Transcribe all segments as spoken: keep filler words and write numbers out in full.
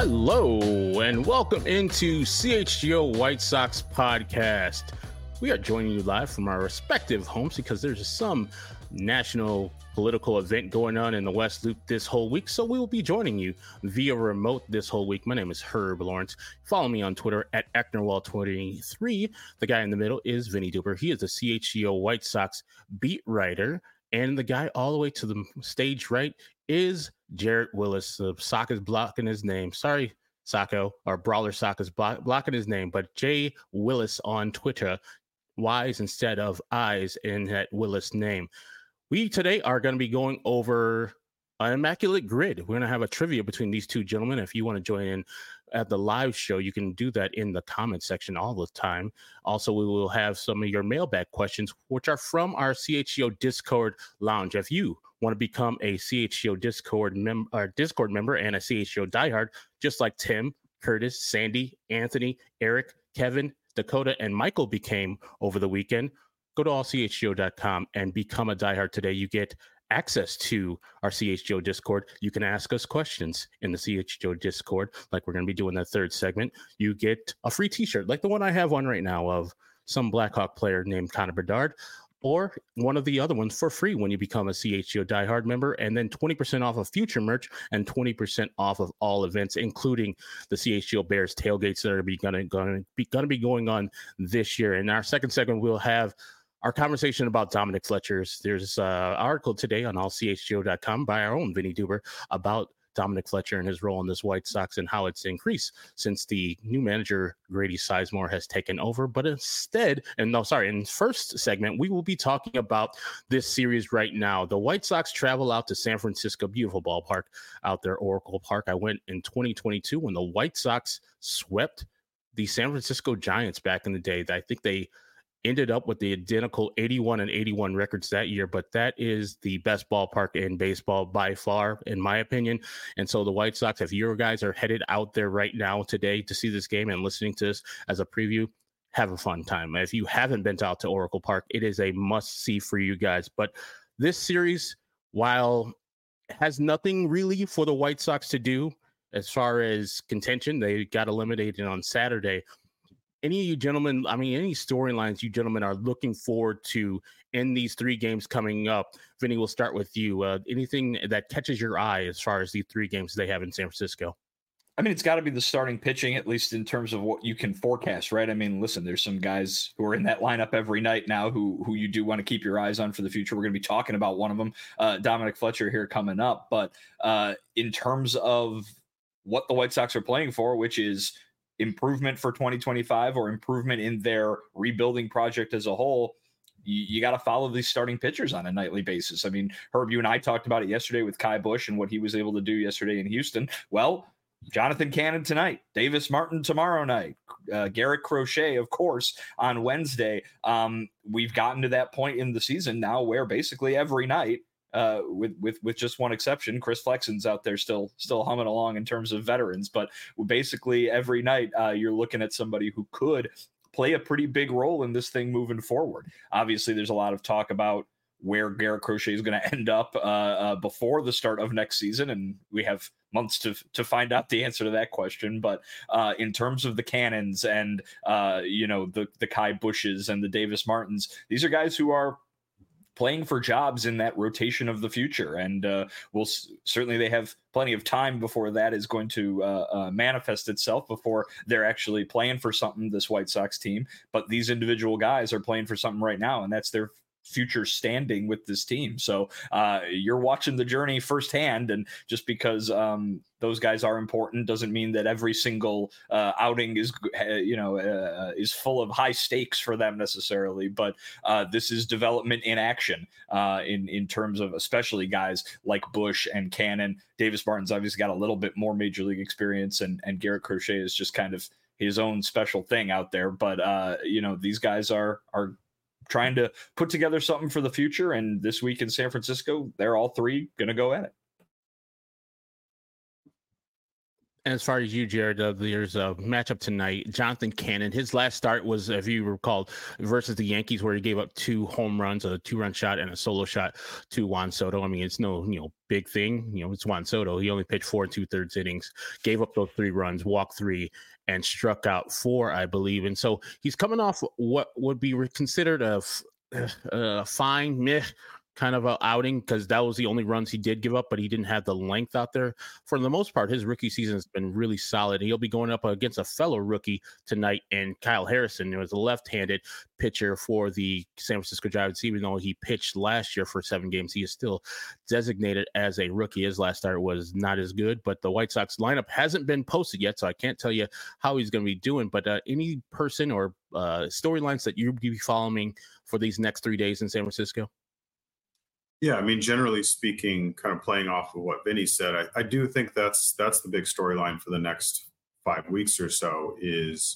Hello, and welcome into C H G O White Sox podcast. We are joining you live from our respective homes because there's some national political event going on in the West Loop this whole week, so we will be joining you via remote this whole week. My name is Herb Lawrence. Follow me on Twitter at Ecknerwall twenty-three. The guy in the middle is Vinny Duber. He is a C H G O White Sox beat writer, and the guy all the way to the stage right is Jarrett Willis. The sock is blocking his name. Sorry, Sacco, or Brawler Sock is block, blocking his name, but Jay Willis on Twitter, Y's instead of I's in that Willis name. We today are going to be going over an immaculate grid. We're going to have a trivia between these two gentlemen. If you want to join in at the live show, you can do that in the comment section all the time. Also, we will have some of your mailbag questions, which are from our C H G O Discord lounge. If you want to become a C H G O Discord, mem- or Discord member and a C H G O diehard, just like Tim, Curtis, Sandy, Anthony, Eric, Kevin, Dakota, and Michael became over the weekend, go to all c h g o dot com and become a diehard today. You get access to our C H G O Discord. You can ask us questions in the C H G O Discord, like we're going to be doing that third segment. You get a free t-shirt, like the one I have on right now of some Blackhawk player named Connor Bedard, or one of the other ones for free when you become a C H G O diehard member, and then twenty percent off of future merch and twenty percent off of all events, including the C H G O Bears tailgates that are be gonna, gonna, be, gonna be going on this year. In our second segment, we'll have our conversation about Dominic Fletcher's. There's an article today on all c h g o dot com by our own Vinny Duber about Dominic Fletcher and his role in this White Sox and how it's increased since the new manager, Grady Sizemore, has taken over. But instead, and no, sorry, in the first segment, we will be talking about this series right now. The White Sox travel out to San Francisco, beautiful ballpark out there, Oracle Park. I went in twenty twenty-two when the White Sox swept the San Francisco Giants back in the day. I think they ended up with the identical eighty-one and eighty-one records that year, but that is the best ballpark in baseball by far, in my opinion. And so the White Sox, if your guys are headed out there right now today to see this game and listening to this as a preview, have a fun time. If you haven't been out to Oracle Park, it is a must-see for you guys. But this series, while it has nothing really for the White Sox to do as far as contention, they got eliminated on Saturday. Any of you gentlemen, I mean, any storylines you gentlemen are looking forward to in these three games coming up? Vinny, we'll start with you. Uh, anything that catches your eye as far as the three games they have in San Francisco? I mean, it's got to be the starting pitching, at least in terms of what you can forecast, right? I mean, listen, there's some guys who are in that lineup every night now who who you do want to keep your eyes on for the future. We're going to be talking about one of them, uh, Dominic Fletcher, here coming up. But uh, in terms of what the White Sox are playing for, which is improvement for twenty twenty-five or improvement in their rebuilding project as a whole, you, you got to follow these starting pitchers on a nightly basis. I mean, Herb, you and I talked about it yesterday with Kai Busch and what he was able to do yesterday in Houston. Well, Jonathan Cannon tonight, Davis Martin tomorrow night, uh, Garrett Crochet, of course, on Wednesday. Um, we've gotten to that point in the season now where basically every night, Uh, with with with just one exception, Chris Flexen's out there still still humming along in terms of veterans. But basically every night uh, you're looking at somebody who could play a pretty big role in this thing moving forward. Obviously, there's a lot of talk about where Garrett Crochet is going to end up uh, uh, before the start of next season, and we have months to to find out the answer to that question. But uh, in terms of the Cannons and uh, you know the the Kai Bushes and the Davis Martins, these are guys who are playing for jobs in that rotation of the future. And uh, we'll certainly, they have plenty of time before that is going to uh, uh, manifest itself, before they're actually playing for something, this White Sox team. But these individual guys are playing for something right now, and that's their future standing with this team. So uh, you're watching the journey firsthand, and just because um, those guys are important doesn't mean that every single uh, outing is, uh, you know, uh, is full of high stakes for them necessarily. But uh, this is development in action uh, in in terms of especially guys like Bush and Cannon. Davis Martin's obviously got a little bit more major league experience, and and Garrett Crochet is just kind of his own special thing out there. But uh, you know, these guys are are trying to put together something for the future. And this week in San Francisco, they're all three going to go at it. As far as you, Jared, uh, there's a matchup tonight. Jonathan Cannon, his last start was, if you recall, versus the Yankees, where he gave up two home runs, a two-run shot and a solo shot to Juan Soto. I mean, it's no, you know, big thing. You know, it's Juan Soto. He only pitched four and two-thirds innings, gave up those three runs, walked three, and struck out four, I believe. And so he's coming off what would be considered a, a fine, meh, kind of a outing, because that was the only runs he did give up, but he didn't have the length out there. For the most part, his rookie season has been really solid. He'll be going up against a fellow rookie tonight, and Kyle Harrison, who was a left-handed pitcher for the San Francisco Giants. Even though he pitched last year for seven games, he is still designated as a rookie. His last start was not as good, but the White Sox lineup hasn't been posted yet, so I can't tell you how he's going to be doing. But uh, any person or uh, storylines that you'll be following for these next three days in San Francisco? Yeah, I mean, generally speaking, kind of playing off of what Vinny said, I, I do think that's that's the big storyline for the next five weeks or so is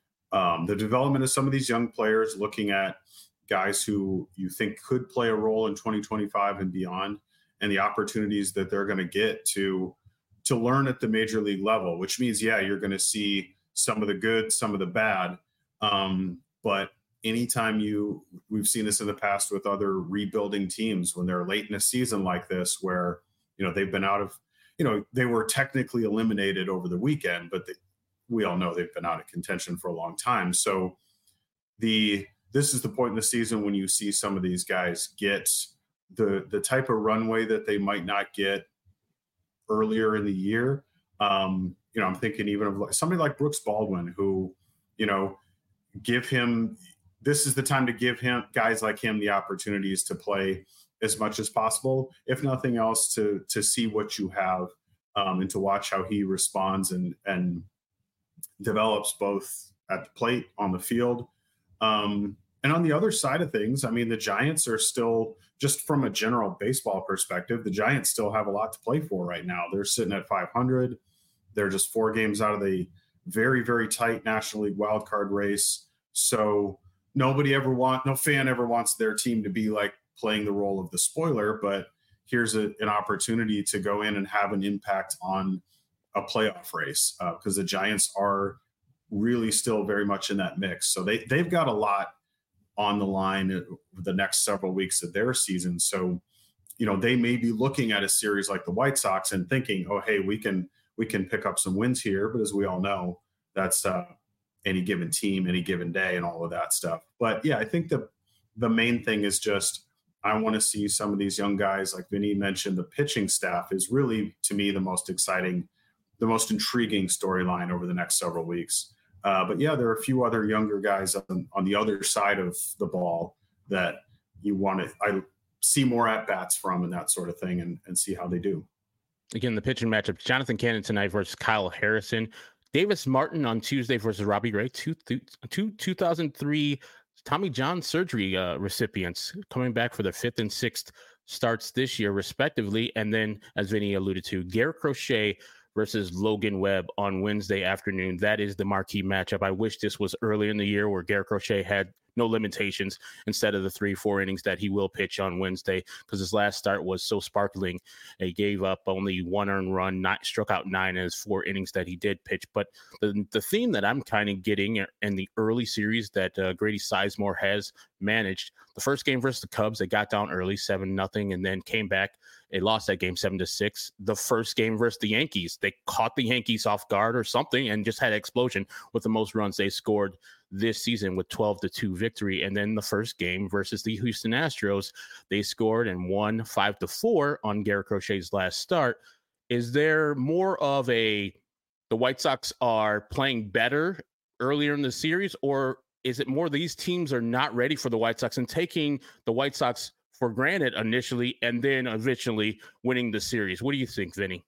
um, the development of some of these young players, looking at guys who you think could play a role in twenty twenty-five and beyond, and the opportunities that they're going to get to to learn at the major league level, which means, yeah, you're going to see some of the good, some of the bad, um, but anytime you, we've seen this in the past with other rebuilding teams when they're late in a season like this, where, you know, they've been out of, you know, they were technically eliminated over the weekend, but they, we all know they've been out of contention for a long time. So the, this is the point in the season when you see some of these guys get the, the type of runway that they might not get earlier in the year. Um, you know, I'm thinking even of somebody like Brooks Baldwin, who, you know, give him, this is the time to give him guys like him the opportunities to play as much as possible, if nothing else, to to see what you have um, and to watch how he responds and and develops both at the plate, on the field. Um, and on the other side of things, I mean, the Giants are still, just from a general baseball perspective, the Giants still have a lot to play for right now. They're sitting at five hundred. They're just four games out of the very, very tight National League wildcard race. So nobody ever want, no fan ever wants their team to be like playing the role of the spoiler, but here's a, an opportunity to go in and have an impact on a playoff race because uh, the Giants are really still very much in that mix. So they, they've got a lot on the line the next several weeks of their season. So, you know, they may be looking at a series like the White Sox and thinking, oh, hey, we can, we can pick up some wins here. But as we all know, that's uh, any given team, any given day, and all of that stuff. But yeah, I think the the main thing is just I want to see some of these young guys, like Vinny mentioned, the pitching staff is really, to me, the most exciting, the most intriguing storyline over the next several weeks. Uh, but yeah, there are a few other younger guys on, on the other side of the ball that you want to I see more at bats from and that sort of thing, and, and see how they do. Again, the pitching matchup: Jonathan Cannon tonight versus Kyle Harrison. Davis Martin on Tuesday versus Robbie Ray, two, two, two thousand three Tommy John surgery uh, recipients coming back for their fifth and sixth starts this year, respectively. And then, as Vinny alluded to, Garrett Crochet versus Logan Webb on Wednesday afternoon. That is the marquee matchup. I wish this was earlier in the year where Garrett Crochet had no limitations instead of the three, four innings that he will pitch on Wednesday, because his last start was so sparkling. He gave up only one earned run, not struck out nine in his four innings that he did pitch. But the, the theme that I'm kind of getting in the early series that uh, Grady Sizemore has managed, the first game versus the Cubs, they got down early, seven nothing, and then came back. They lost that game seven to six. The first game versus the Yankees, they caught the Yankees off guard or something and just had an explosion with the most runs they scored this season with twelve to two victory. And then the first game versus the Houston Astros, they scored and won five to four on Garrett Crochet's last start. Is there more of a, the White Sox are playing better earlier in the series, or is it more these teams are not ready for the White Sox and taking the White Sox for granted initially and then eventually winning the series? What do you think, Vinny?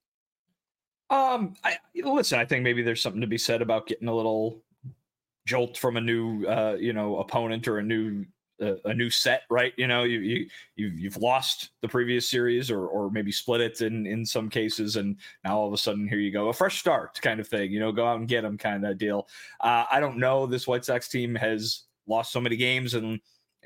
Um, I, listen, I think maybe there's something to be said about getting a little jolt from a new, uh, you know, opponent or a new, uh, a new set, right? You know, you you you've, you've lost the previous series, or or maybe split it in in some cases, and now all of a sudden here you go, a fresh start kind of thing. You know, go out and get them kind of deal. Uh, I don't know. This White Sox team has lost so many games, and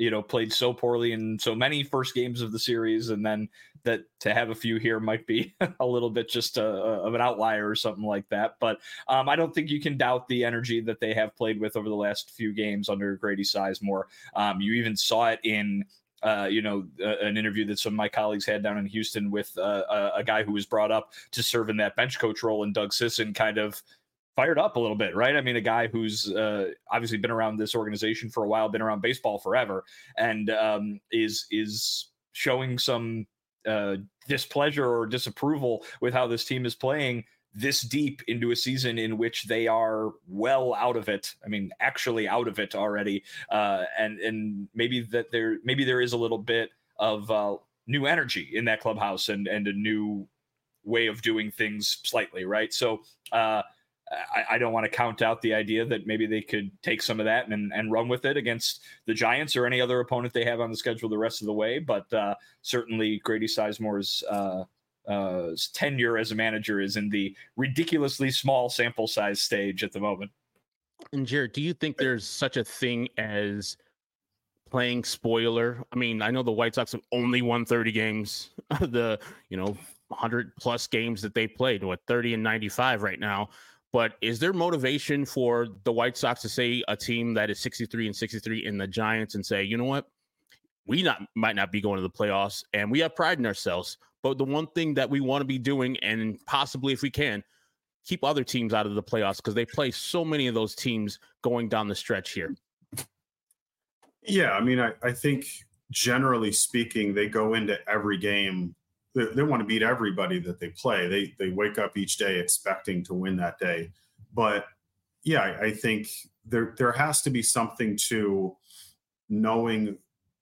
you know, played so poorly in so many first games of the series, and then that to have a few here might be a little bit just a, a, of an outlier or something like that. But um, I don't think you can doubt the energy that they have played with over the last few games under Grady Sizemore. Um, you even saw it in Uh, you know, uh, an interview that some of my colleagues had down in Houston with uh, a, a guy who was brought up to serve in that bench coach role, and Doug Sisson kind of fired up a little bit, right? I mean, a guy who's uh, obviously been around this organization for a while, been around baseball forever, and um, is is showing some uh, displeasure or disapproval with how this team is playing this deep into a season in which they are well out of it. I mean, actually out of it already. Uh, and, and maybe that there, maybe there is a little bit of uh, new energy in that clubhouse and, and a new way of doing things slightly. Right. So uh, I, I don't want to count out the idea that maybe they could take some of that and, and run with it against the Giants or any other opponent they have on the schedule the rest of the way. But uh, certainly Grady Sizemore's uh, uh tenure as a manager is in the ridiculously small sample size stage at the moment. And Jared, do you think there's such a thing as playing spoiler? I mean, I know the White Sox have only won thirty games, the, you know, one hundred plus games that they played, what, thirty and ninety-five right now. But is there motivation for the White Sox to say a team that is sixty-three and sixty-three in the Giants and say, you know what, we not might not be going to the playoffs and we have pride in ourselves, but the one thing that we want to be doing, and possibly if we can, keep other teams out of the playoffs because they play so many of those teams going down the stretch here? Yeah, I mean, I, I think generally speaking, they go into every game. They, they want to beat everybody that they play. They they wake up each day expecting to win that day. But yeah, I, I think there there has to be something to knowing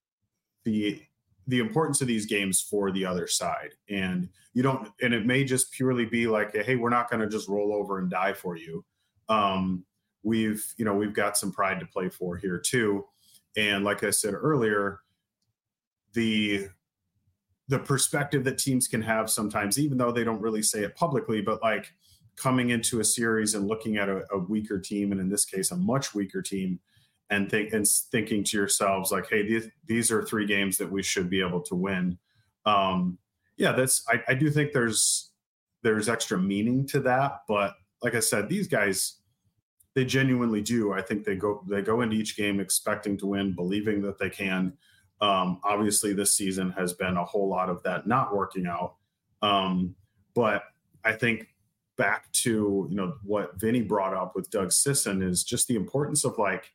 the the importance of these games for the other side. And you don't, and it may just purely be like, hey, we're not going to just roll over and die for you. Um, we've, you know, we've got some pride to play for here too. And like I said earlier, the, the perspective that teams can have sometimes, even though they don't really say it publicly, but like coming into a series and looking at a, a weaker team, and in this case, a much weaker team, and think and thinking to yourselves like, hey, these, these are three games that we should be able to win. Um, yeah, that's, I, I do think there's, there's extra meaning to that. But like I said, these guys, they genuinely do. I think they go, they go into each game expecting to win, believing that they can. Um, obviously this season has been a whole lot of that not working out. Um, but I think back to, you know, what Vinny brought up with Doug Sisson is just the importance of like,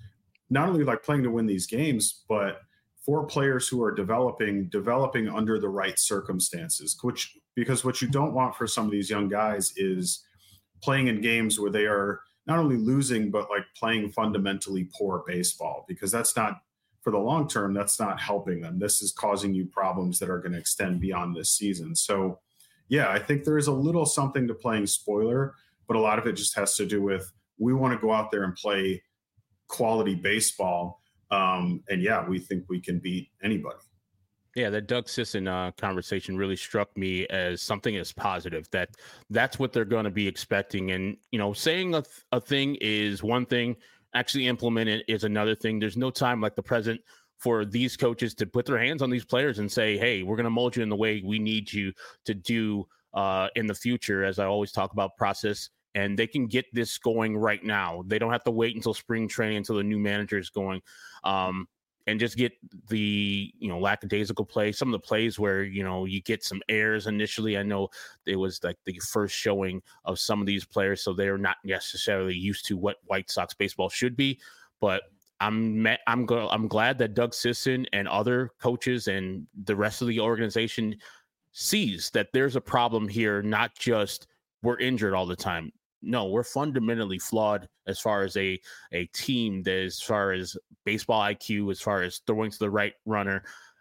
not only like playing to win these games, but for players who are developing, developing under the right circumstances, which, because what you don't want for some of these young guys is playing in games where they are not only losing, but like playing fundamentally poor baseball, because that's not, for the long term, that's not helping them. This is causing you problems that are going to extend beyond this season. So yeah, I think there is a little something to playing spoiler, but a lot of it just has to do with, we want to go out there and play quality baseball. Um, and yeah, we think we can beat anybody. Yeah, that Doug Sisson uh, conversation really struck me as something as positive, that that's what they're going to be expecting. And, you know, saying a, th- a thing is one thing, actually implement it is another thing. There's no time like the present for these coaches to put their hands on these players and say, hey, we're going to mold you in the way we need you to do uh, in the future. As I always talk about process, and they can get this going right now. They don't have to wait until spring training, until the new manager is going, um, and just get the, you know, lackadaisical play. Some of the plays where, you know, you get some errors initially. I know it was like the first showing of some of these players, so they're not necessarily used to what White Sox baseball should be. But I'm I'm go, I'm glad that Doug Sisson and other coaches and the rest of the organization sees that there's a problem here, not just we're injured all the time. No, we're fundamentally flawed as far as a, a team, that as far as baseball I Q, as far as throwing to the right runner,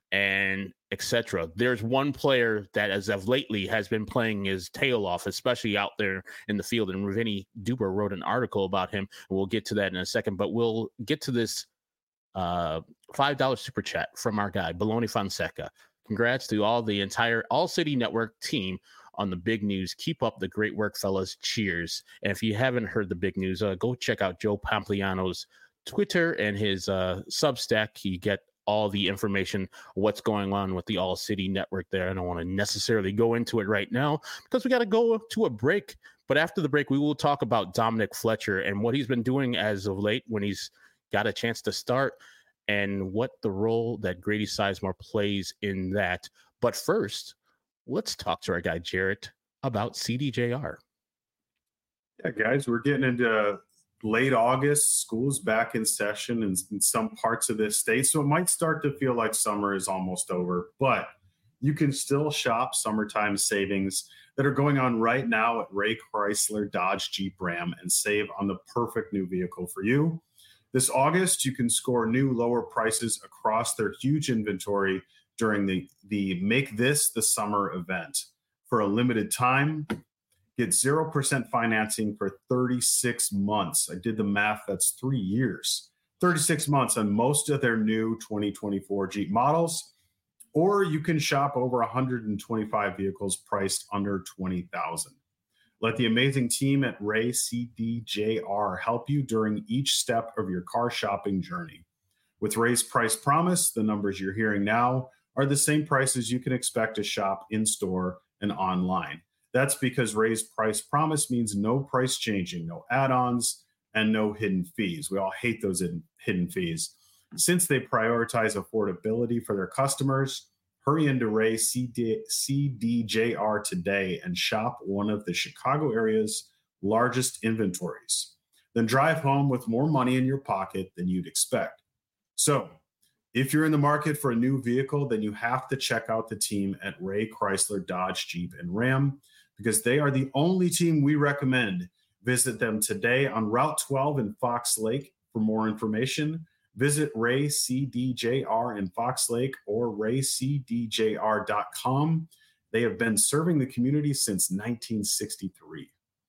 and et cetera. There's one player that, as of lately, has been playing his tail off, especially out there in the field. And Vinny Duber wrote an article about him. We'll get to that in a second, but we'll get to this uh, five dollar super chat from our guy, Baloney Fonseca. Congrats to all the entire All City Network team on the big news. Keep up the great work, fellas. Cheers. And if you haven't heard the big news, uh, go check out Joe Pompliano's Twitter and his uh, Substack. You get all the information, what's going on with the All City Network there. I don't want to necessarily go into it right now because we got to go to a break. But after the break, we will talk about Dominic Fletcher and what he's been doing as of late when he's got a chance to start and what the role that Grady Sizemore plays in that. But first, let's talk to our guy, Jarrett, about C D J R. Yeah, guys, we're getting into late August. School's back in session in, in some parts of this state, so it might start to feel like summer is almost over, but you can still shop summertime savings that are going on right now at Ray Chrysler Dodge Jeep Ram and save on the perfect new vehicle for you. This August, you can score new lower prices across their huge inventory during the, the Make This the Summer event. For a limited time, get zero percent financing for thirty-six months. I did the math, that's three years. thirty-six months on most of their new twenty twenty-four Jeep models. Or you can shop over one hundred twenty-five vehicles priced under twenty thousand dollars. Let the amazing team at Ray C D J R help you during each step of your car shopping journey. With Ray's Price Promise, the numbers you're hearing now are the same prices you can expect to shop in-store and online. That's because Ray's Price Promise means no price changing, no add-ons, and no hidden fees. We all hate those hidden fees. Since they prioritize affordability for their customers, hurry into Ray C D J R today and shop one of the Chicago area's largest inventories. Then drive home with more money in your pocket than you'd expect. So, if you're in the market for a new vehicle, then you have to check out the team at Ray Chrysler Dodge Jeep and Ram, because they are the only team we recommend. Visit them today on Route twelve in Fox Lake for more information. Visit Ray C D J R in Fox Lake or ray c d j r dot com. They have been serving the community since nineteen sixty-three.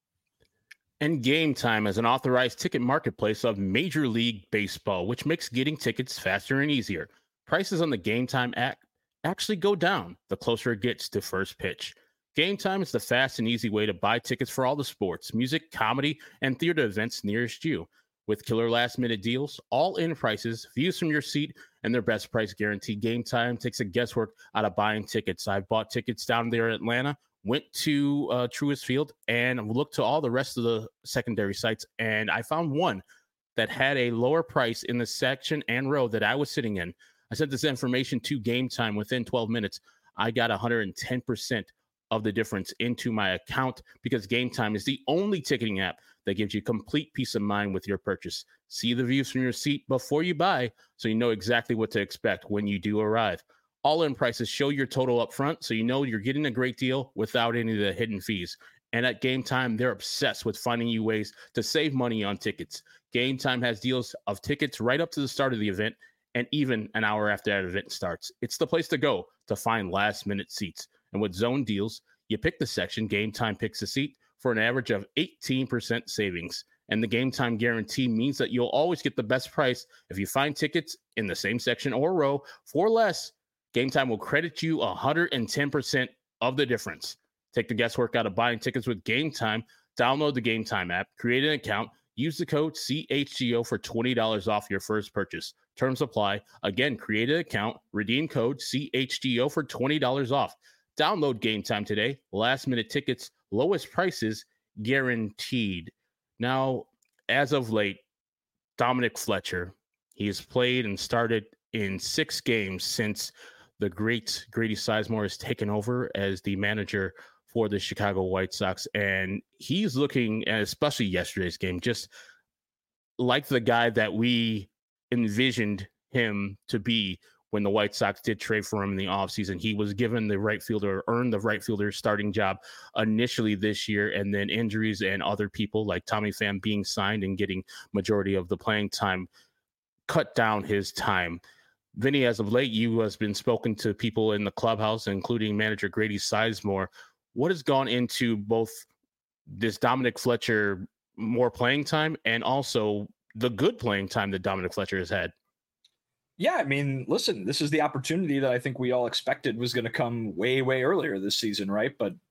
And Game Time is an authorized ticket marketplace of Major League Baseball, which makes getting tickets faster and easier. Prices on the Game Time app actually go down the closer it gets to first pitch. Game Time is the fast and easy way to buy tickets for all the sports, music, comedy, and theater events nearest you. With killer last-minute deals, all-in prices, views from your seat, and their best price guarantee, Game Time takes the guesswork out of buying tickets. I've bought tickets down there in Atlanta, went to uh, Truist Field, and looked to all the rest of the secondary sites, and I found one that had a lower price in the section and row that I was sitting in. I sent this information to Game Time. Within twelve minutes, I got one hundred ten percent of the difference into my account because Game Time is the only ticketing app that gives you complete peace of mind with your purchase. See the views from your seat before you buy so you know exactly what to expect when you do arrive. All-in prices show your total up front so you know you're getting a great deal without any of the hidden fees. And at Game Time, they're obsessed with finding you ways to save money on tickets. Game Time has deals of tickets right up to the start of the event and even an hour after that event starts. It's the place to go to find last-minute seats. And with zone deals, you pick the section, Game Time picks the seat, for an average of eighteen percent savings. And the Game Time guarantee means that you'll always get the best price. If you find tickets in the same section or row for less, Game Time will credit you one hundred ten percent of the difference. Take the guesswork out of buying tickets with Game Time. Download the Game Time app, create an account, use the code C H G O for twenty dollars off your first purchase. Terms apply. Again, create an account, redeem code C H G O for twenty dollars off. Download Game Time today. Last minute tickets, lowest prices guaranteed. Now, as of late, Dominic Fletcher, he has played and started in six games since the great Grady Sizemore has taken over as the manager for the Chicago White Sox. And he's looking, and especially yesterday's game, just like the guy that we envisioned him to be when the White Sox did trade for him in the offseason. He was given the right fielder, earned the right fielder starting job initially this year, and then injuries and other people like Tommy Pham being signed and getting majority of the playing time cut down his time. Vinny, as of late, you has been spoken to people in the clubhouse, including manager Grady Sizemore. What has gone into both this Dominic Fletcher more playing time and also the good playing time that Dominic Fletcher has had? Yeah, I mean, listen, this is the opportunity that I think we all expected was going to come way, way earlier this season, right? But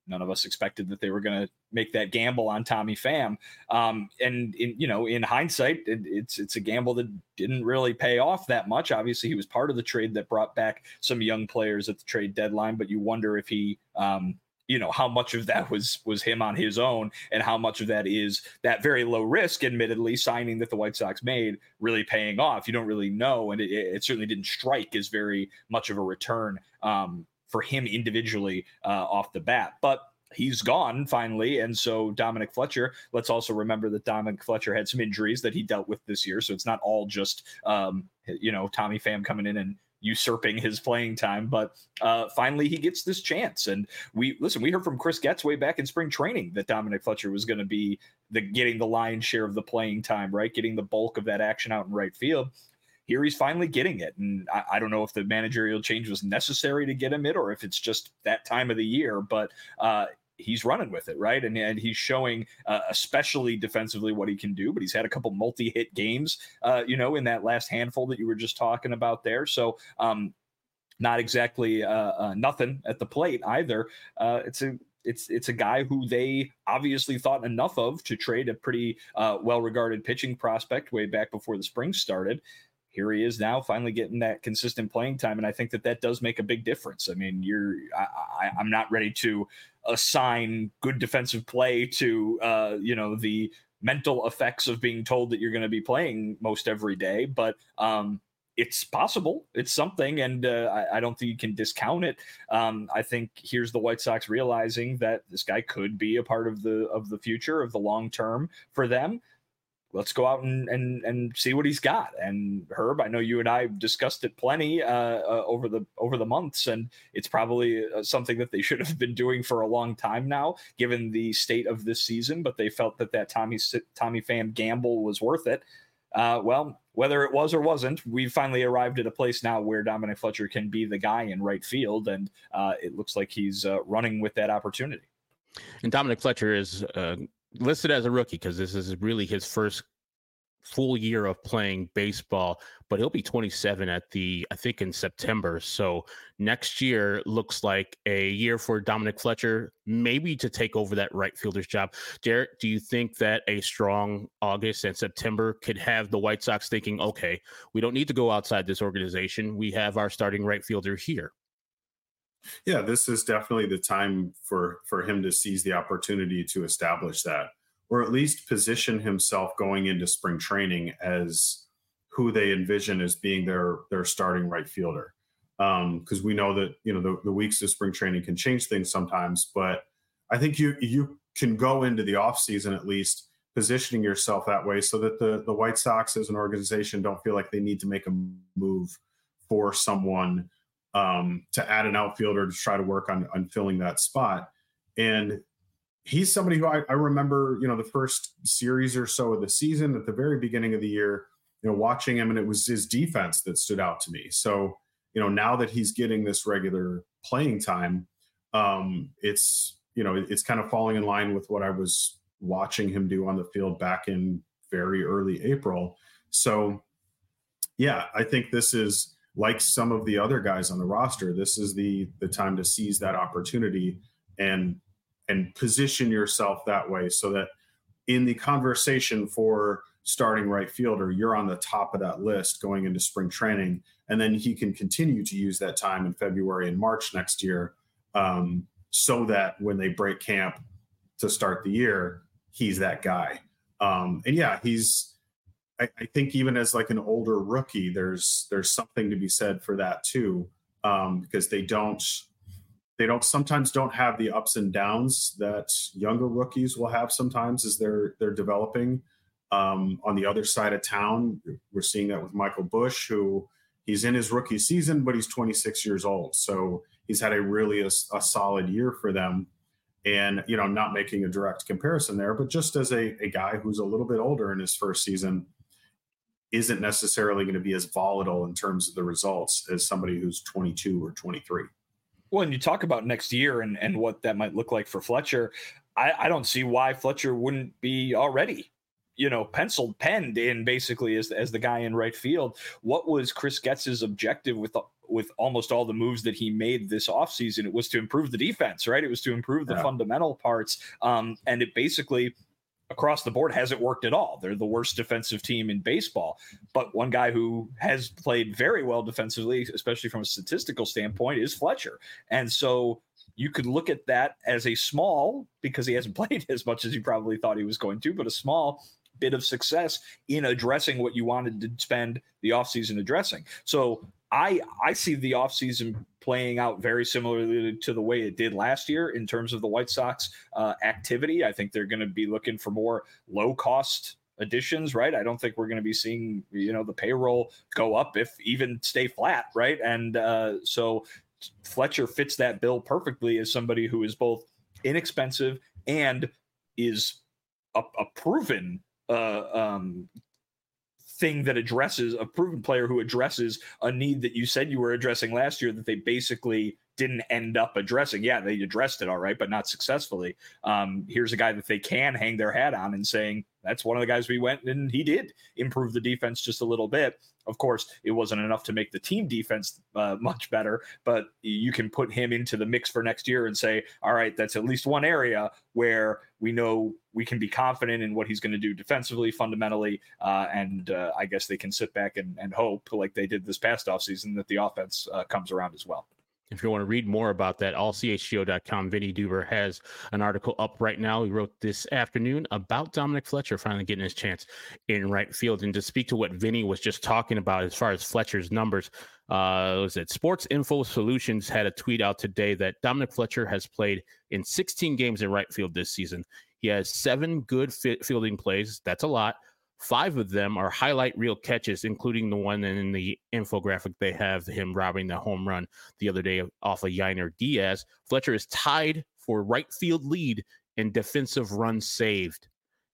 none of us expected that they were going to make that gamble on Tommy Pham. Um, and in, you know, in hindsight, it, it's, it's a gamble that didn't really pay off that much. Obviously he was part of the trade that brought back some young players at the trade deadline, but you wonder if he, um, you know, how much of that was, was him on his own, and how much of that is that very low risk, admittedly, signing that the White Sox made really paying off. You don't really know. And it, it certainly didn't strike as very much of a return, um, for him individually uh, off the bat, but he's gone finally. And so Dominic Fletcher, let's also remember that Dominic Fletcher had some injuries that he dealt with this year. So it's not all just, um, you know, Tommy Pham coming in and usurping his playing time, but uh, finally he gets this chance. And we listen, we heard from Chris Getz way back in spring training that Dominic Fletcher was going to be the getting the lion's share of the playing time, right? Getting the bulk of that action out in right field. Here he's finally getting it. And I, I don't know if the managerial change was necessary to get him it, or if it's just that time of the year, but uh, he's running with it, right? And, and he's showing, uh, especially defensively, what he can do, but he's had a couple multi-hit games, uh, you know, in that last handful that you were just talking about there. So um, not exactly uh, uh, nothing at the plate either. Uh, it's a, It's it's a guy who they obviously thought enough of to trade a pretty uh, well-regarded pitching prospect way back before the spring started. Here he is now finally getting that consistent playing time. And I think that that does make a big difference. I mean, you're, I, I, I'm not ready to assign good defensive play to, uh, you know, the mental effects of being told that you're going to be playing most every day, but um, it's possible. It's something. And uh, I, I don't think you can discount it. Um, I think here's the White Sox realizing that this guy could be a part of the, of the future, of the long term for them. Let's go out and, and and see what he's got. And Herb, I know you and I discussed it plenty uh, uh, over the over the months, and it's probably uh, something that they should have been doing for a long time now, given the state of this season. But they felt that that Tommy Tommy Pham gamble was worth it. Uh, well, whether it was or wasn't, we finally arrived at a place now where Dominic Fletcher can be the guy in right field, and uh, it looks like he's uh, running with that opportunity. And Dominic Fletcher is uh, listed as a rookie because this is really his first full year of playing baseball, but he'll be twenty-seven at the, I think in September. So next year looks like a year for Dominic Fletcher, maybe to take over that right fielder's job. Jarrett, do you think that a strong August and September could have the White Sox thinking, okay, we don't need to go outside this organization. We have our starting right fielder here. Yeah, this is definitely the time for, for him to seize the opportunity to establish that, or at least position himself going into spring training as who they envision as being their, their starting right fielder. Um, cause we know that, you know, the, the weeks of spring training can change things sometimes, but I think you, you can go into the off season, at least positioning yourself that way so that the, the White Sox as an organization don't feel like they need to make a move for someone um, to add an outfielder to try to work on, on filling that spot. And he's somebody who I, I remember, you know, the first series or so of the season at the very beginning of the year, you know, watching him, and it was his defense that stood out to me. So, you know, now that he's getting this regular playing time, um, it's, you know, it's kind of falling in line with what I was watching him do on the field back in very early April. So, yeah, I think this is, like some of the other guys on the roster, this is the the time to seize that opportunity and and position yourself that way so that in the conversation for starting right fielder, you're on the top of that list going into spring training. And then he can continue to use that time in February and March next year um, so that when they break camp to start the year, he's that guy. Um, and yeah, he's, I, I think even as like an older rookie, there's there's something to be said for that too, um, because they don't they don't sometimes don't have the ups and downs that younger rookies will have sometimes as they're they're developing. Um, on the other side of town, we're seeing that with Michael Busch, who he's in his rookie season, but he's twenty-six years old, so he's had a really a, a solid year for them. And you know, not making a direct comparison there, but just as a, a guy who's a little bit older in his first season, isn't necessarily going to be as volatile in terms of the results as somebody who's twenty-two or twenty-three. Well, and you talk about next year and, and what that might look like for Fletcher. I, I don't see why Fletcher wouldn't be already, you know, penciled, penned in basically as, as the guy in right field. What was Chris Getz's objective with with almost all the moves that he made this offseason, it was to improve the defense, right? It was to improve the yeah. fundamental parts. Um, and it basically across the board hasn't worked at all. They're the worst defensive team in baseball. But one guy who has played very well defensively, especially from a statistical standpoint, is Fletcher. And so you could look at that as a small, because he hasn't played as much as you probably thought he was going to, but a small bit of success in addressing what you wanted to spend the offseason addressing. So I I see the offseason playing out very similarly to the way it did last year in terms of the White Sox uh, activity. I think they're going to be looking for more low-cost additions, right? I don't think we're going to be seeing, you know, the payroll go up, if even stay flat, right? And uh, so Fletcher fits that bill perfectly as somebody who is both inexpensive and is a, a proven uh, um, thing that addresses a proven player who addresses a need that you said you were addressing last year that they basically didn't end up addressing. Yeah, they addressed it all right, but not successfully. Um, here's a guy that they can hang their hat on and saying, that's one of the guys we went, and he did improve the defense just a little bit. Of course, it wasn't enough to make the team defense uh, much better, but you can put him into the mix for next year and say, all right, that's at least one area where we know we can be confident in what he's going to do defensively, fundamentally, uh, and uh, I guess they can sit back and, and hope, like they did this past offseason, that the offense uh, comes around as well. If you want to read more about that, all C H G O dot com, Vinny Duber has an article up right now. He wrote this afternoon about Dominic Fletcher finally getting his chance in right field. And to speak to what Vinny was just talking about as far as Fletcher's numbers, uh, was it Sports Info Solutions had a tweet out today that Dominic Fletcher has played in sixteen games in right field this season. He has seven good fit fielding plays. That's a lot. Five of them are highlight reel catches, including the one in the infographic they have him robbing the home run the other day off of Yainer Diaz. Fletcher is tied for right field lead in defensive runs saved.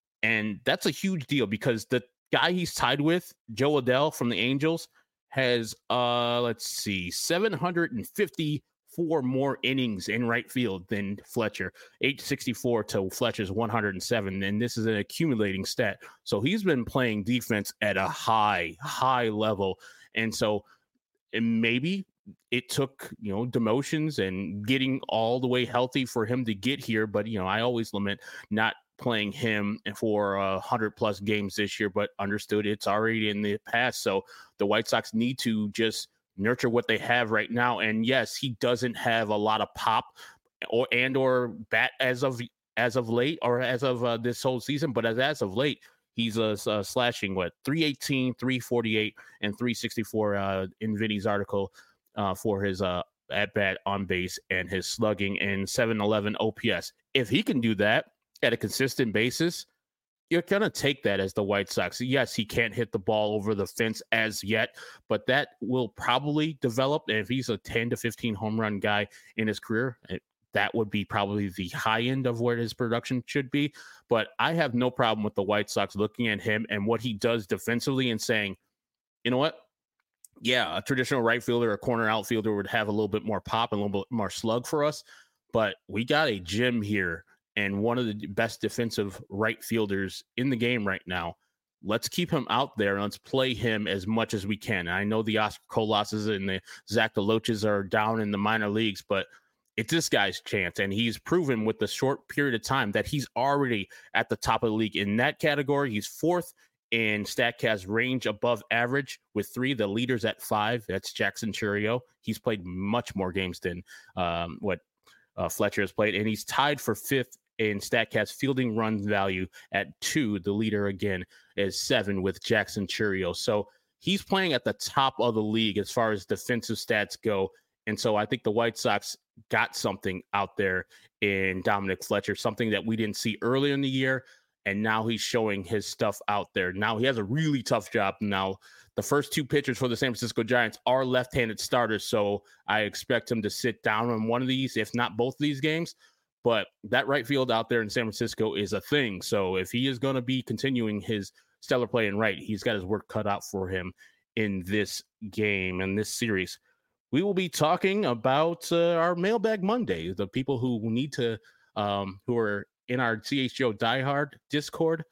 And that's a huge deal because the guy he's tied with, Joe Adell from the Angels, has, uh, let's see, seven hundred fifty-four more innings in right field than Fletcher, eight sixty-four to Fletcher's one hundred seven. And this is an accumulating stat. So he's been playing defense at a high, high level. And so and maybe it took, you know, demotions and getting all the way healthy for him to get here. But, you know, I always lament not playing him for a uh, hundred plus games this year, but understood it's already in the past. So the White Sox need to just nurture what they have right now. And yes, he doesn't have a lot of pop or and or bat as of as of late or as of uh, this whole season, but as as of late, he's uh, uh, slashing what three eighteen, three forty-eight, and three sixty-four uh, in Vinny's article uh, for his uh, at bat on base and his slugging and seven eleven O P S. If he can do that at a consistent basis, you're going to take that as the White Sox. Yes, he can't hit the ball over the fence as yet, but that will probably develop. And if he's a ten to fifteen home run guy in his career, it, that would be probably the high end of where his production should be. But I have no problem with the White Sox looking at him and what he does defensively and saying, you know what? Yeah, a traditional right fielder or corner outfielder would have a little bit more pop and a little bit more slug for us, but we got a gem here and one of the best defensive right fielders in the game right now. Let's keep him out there and let's play him as much as we can. And I know the Oscar Colases and the Zach DeLoaches are down in the minor leagues, but it's this guy's chance. And he's proven with the short period of time that he's already at the top of the league in that category. He's fourth in StatCast range above average with three. The leader's at five. That's Jackson Chourio. He's played much more games than um, what uh, Fletcher has played. And he's tied for fifth in StatCast fielding run value at two. The leader again is seven with Jackson Chourio. So he's playing at the top of the league as far as defensive stats go. And so I think the White Sox got something out there in Dominic Fletcher, something that we didn't see earlier in the year. And now he's showing his stuff out there. Now he has a really tough job. Now the first two pitchers for the San Francisco Giants are left-handed starters. So I expect him to sit down on one of these, if not both of these games. But that right field out there in San Francisco is a thing. So if he is going to be continuing his stellar play in right, he's got his work cut out for him in this game and this series. We will be talking about uh, our Mailbag Monday, the people who need to, um, who are in our C H G O Diehard Discord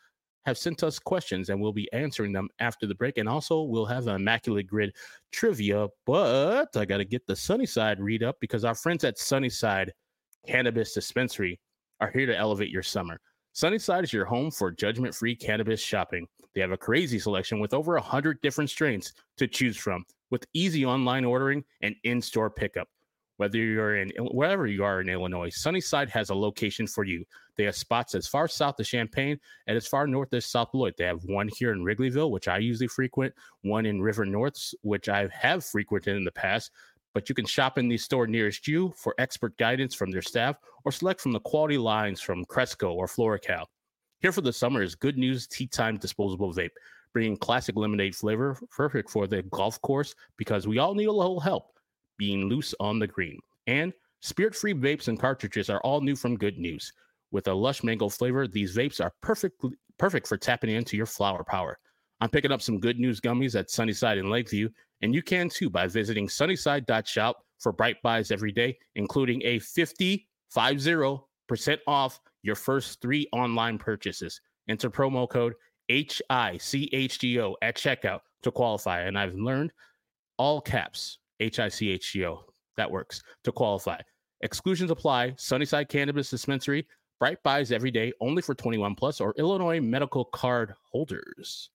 have sent us questions, and we'll be answering them after the break. And also, we'll have an Immaculate Grid trivia, but I got to get the Sunnyside read up because our friends at Sunnyside Cannabis Dispensary are here to elevate your summer. Sunnyside is your home for judgment-free cannabis shopping. They have a crazy selection with over one hundred different strains to choose from, with easy online ordering and in-store pickup. Whether you're in wherever you are in Illinois, Sunnyside has a location for you. They have spots as far south as Champaign and as far north as South Beloit. They have one here in Wrigleyville, which I usually frequent, one in River North, which I have frequented in the past. But you can shop in the store nearest you for expert guidance from their staff or select from the quality lines from Cresco or Floracal. Here for the summer is Good News Tea Time Disposable Vape, bringing classic lemonade flavor, perfect for the golf course because we all need a little help being loose on the green. And spirit-free vapes and cartridges are all new from Good News. With a lush mango flavor, these vapes are perfect, perfect for tapping into your flower power. I'm picking up some Good News gummies at Sunnyside in Lakeview, and you can too by visiting sunnyside dot shop for bright buys every day, including a fifty percent off your first three online purchases. Enter promo code H I C H G O at checkout to qualify. And I've learned all caps, H I C H G O. That works to qualify. Exclusions apply. Sunnyside Cannabis Dispensary. Bright buys every day, only for twenty-one plus or Illinois medical card holders.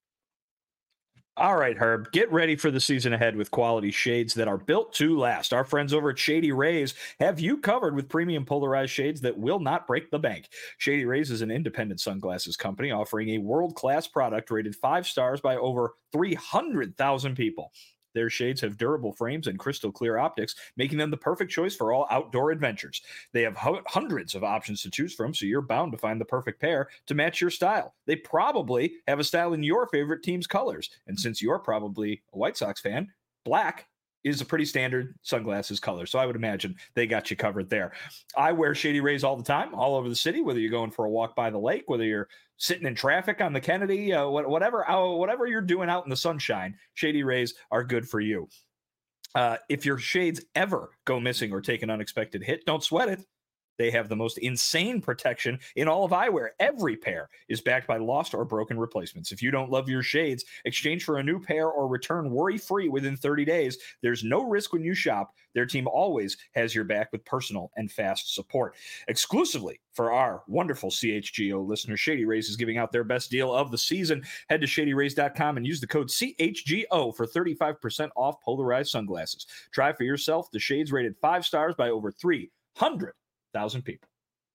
All right, Herb, get ready for the season ahead with quality shades that are built to last. Our friends over at Shady Rays have you covered with premium polarized shades that will not break the bank. Shady Rays is an independent sunglasses company offering a world-class product rated five stars by over three hundred thousand people. Their shades have durable frames and crystal clear optics, making them the perfect choice for all outdoor adventures. They have ho- hundreds of options to choose from, so you're bound to find the perfect pair to match your style. They probably have a style in your favorite team's colors. And since you're probably a White Sox fan, black is a pretty standard sunglasses color. So I would imagine they got you covered there. I wear Shady Rays all the time, all over the city, whether you're going for a walk by the lake, whether you're sitting in traffic on the Kennedy, uh, whatever, uh, whatever you're doing out in the sunshine, Shady Rays are good for you. Uh, if your shades ever go missing or take an unexpected hit, don't sweat it. They have the most insane protection in all of eyewear. Every pair is backed by lost or broken replacements. If you don't love your shades, exchange for a new pair or return worry-free within thirty days. There's no risk when you shop. Their team always has your back with personal and fast support. Exclusively for our wonderful C H G O listeners, Shady Rays is giving out their best deal of the season. Head to shady rays dot com and use the code C H G O for thirty-five percent off polarized sunglasses. Try for yourself the shades rated five stars by over three hundred thousand people.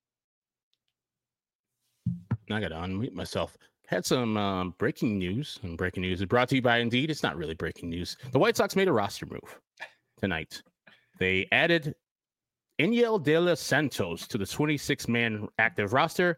I got to unmute myself. Had some um, breaking news, and breaking news is brought to you by Indeed. It's not really breaking news. The White Sox made a roster move tonight. They added Enyel De Los Santos to the twenty-six man active roster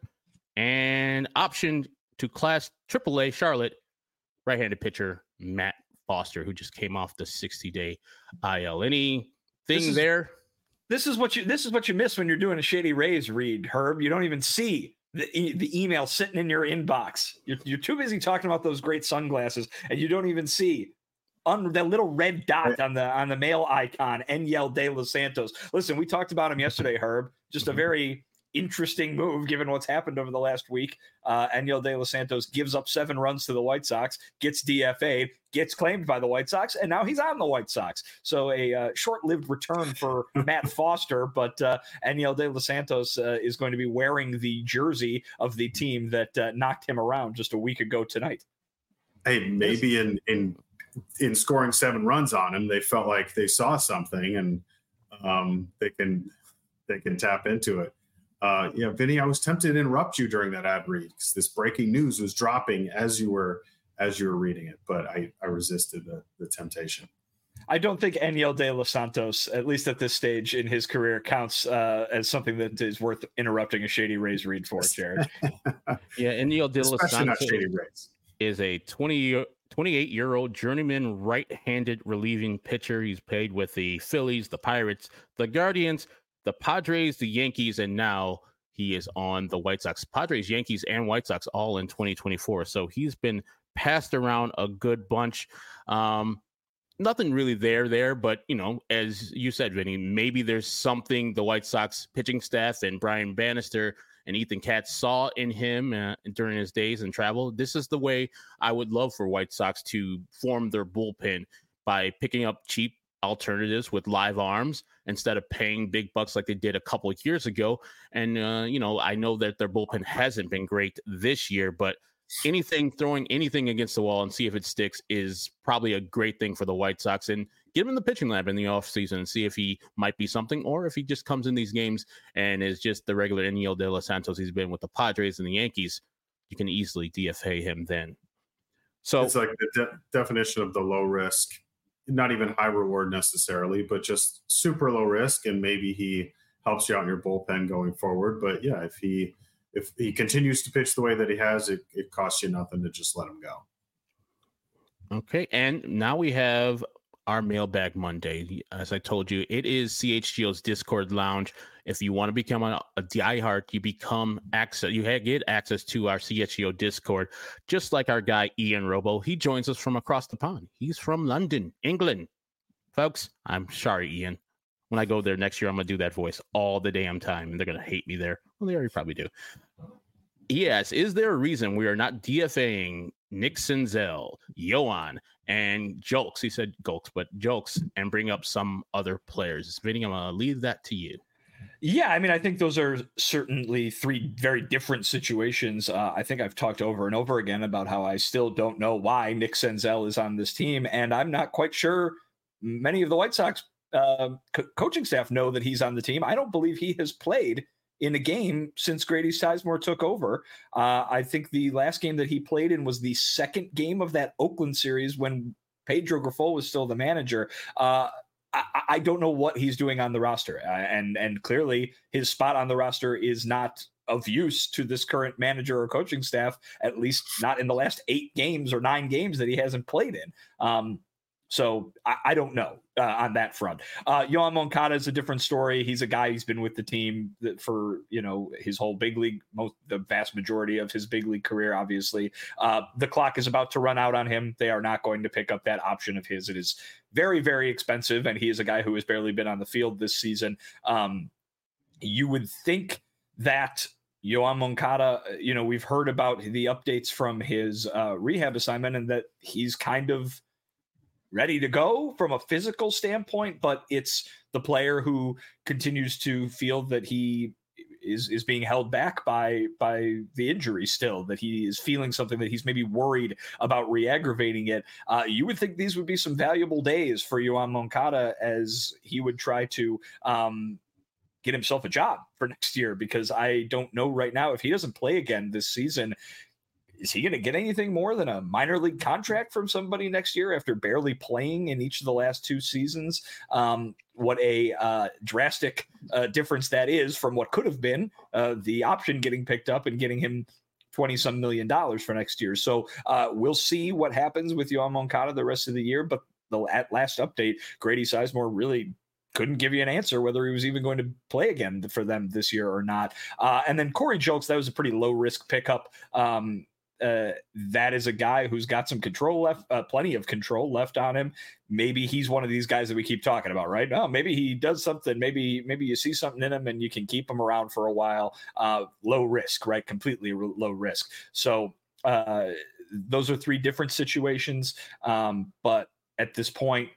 and optioned to Class triple A Charlotte right-handed pitcher Matt Foster, who just came off the sixty day I L. Anything is- there? This is what you this is what you miss when you're doing a Shady Rays read, Herb. You don't even see the e- the email sitting in your inbox. You're, you're too busy talking about those great sunglasses, and you don't even see on that little red dot on the on the mail icon, Enyel De Los Santos. Listen, we talked about him yesterday, Herb. Just a very interesting move given what's happened over the last week. Uh, Enyel De Los Santos gives up seven runs to the White Sox, gets D F A'd, gets claimed by the White Sox, and now he's on the White Sox. So a uh, short-lived return for Matt Foster, but uh, Enyel De Los Santos uh, is going to be wearing the jersey of the team that uh, knocked him around just a week ago tonight. Hey, maybe in in in scoring seven runs on him, they felt like they saw something, and um, they can they can tap into it. Uh, yeah, Vinny, I was tempted to interrupt you during that ad read because this breaking news was dropping as you were as you were reading it, but I, I resisted the, the temptation. I don't think Enyel De Los Santos, at least at this stage in his career, counts uh, as something that is worth interrupting a Shady Rays read for, Jared. Yeah, Enyel De Los Especially not Santos Shady Rays. is a twenty, twenty-eight-year-old journeyman right-handed relieving pitcher. He's played with the Phillies, the Pirates, the Guardians, the Padres, the Yankees, and now he is on the White Sox. Padres, Yankees, and White Sox all in twenty twenty-four. So he's been passed around a good bunch. Um, nothing really there there, but, you know, as you said, Vinny, maybe there's something the White Sox pitching staff and Brian Bannister and Ethan Katz saw in him uh, during his days and travel. This is the way I would love for White Sox to form their bullpen, by picking up cheap alternatives with live arms instead of paying big bucks like they did a couple of years ago. And, uh, you know, I know that their bullpen hasn't been great this year, but anything, throwing anything against the wall and see if it sticks is probably a great thing for the White Sox. And get him in the pitching lab in the offseason and see if he might be something, or if he just comes in these games and is just the regular Eniel De Los Santos he's been with the Padres and the Yankees. You can easily D F A him then. So it's like the de- definition of the low risk, not even high reward necessarily, but just super low risk. And maybe he helps you out in your bullpen going forward. But yeah, if he, if he continues to pitch the way that he has, it, it costs you nothing to just let him go. Okay. And now we have our Mailbag Monday. As I told you, it is C H G O's Discord lounge. If you want to become a, a diehard, you become access. You get access to our C H G O Discord, just like our guy Ian Robo. He joins us from across the pond. He's from London, England. Folks, I'm sorry, Ian. When I go there next year, I'm going to do that voice all the damn time, and they're going to hate me there. Well, they already probably do. Yes, is there a reason we are not DFAing Nick Senzel, Yoan, and Jokes? He said Gokes, but Jokes, and bring up some other players. Vinny, I'm going to leave that to you. Yeah, I mean, I think those are certainly three very different situations. Uh, I think I've talked over and over again about how I still don't know why Nick Senzel is on this team, and I'm not quite sure many of the White Sox uh, co- coaching staff know that he's on the team. I don't believe he has played in a game since Grady Sizemore took over. Uh, I think the last game that he played in was the second game of that Oakland series when Pedro Grifol was still the manager. Uh, I, I don't know what he's doing on the roster. Uh, and, and clearly his spot on the roster is not of use to this current manager or coaching staff, at least not in the last eight games or nine games that he hasn't played in. Um, So I, I don't know uh, on that front. Uh, Yoan Moncada is a different story. He's a guy who's been with the team that for, you know, his whole big league, most the vast majority of his big league career, obviously. Uh, the clock is about to run out on him. They are not going to pick up that option of his. It is very, very expensive, and he is a guy who has barely been on the field this season. Um, you would think that Yoan Moncada, you know, we've heard about the updates from his uh, rehab assignment and that he's kind of ready to go from a physical standpoint, but it's the player who continues to feel that he is is being held back by by the injury still, that he is feeling something, that he's maybe worried about re-aggravating it. Uh, you would think these would be some valuable days for Yoan Moncada as he would try to um, get himself a job for next year, because I don't know right now if he doesn't play again this season, is he going to get anything more than a minor league contract from somebody next year after barely playing in each of the last two seasons? Um, what a uh, drastic uh, difference that is from what could have been uh, the option getting picked up and getting him twenty some million dollars for next year. So uh, we'll see what happens with Yoan Moncada the rest of the year. But the at last update, Grady Sizemore really couldn't give you an answer whether he was even going to play again for them this year or not. Uh, and then Corey Jokes, that was a pretty low risk pickup. Um, Uh, that is a guy who's got some control left, uh, plenty of control left on him. Maybe he's one of these guys that we keep talking about, right? No, maybe he does something. Maybe, maybe you see something in him and you can keep him around for a while. Uh, low risk, right? Completely r- low risk. So uh, those are three different situations. Um, but at this point,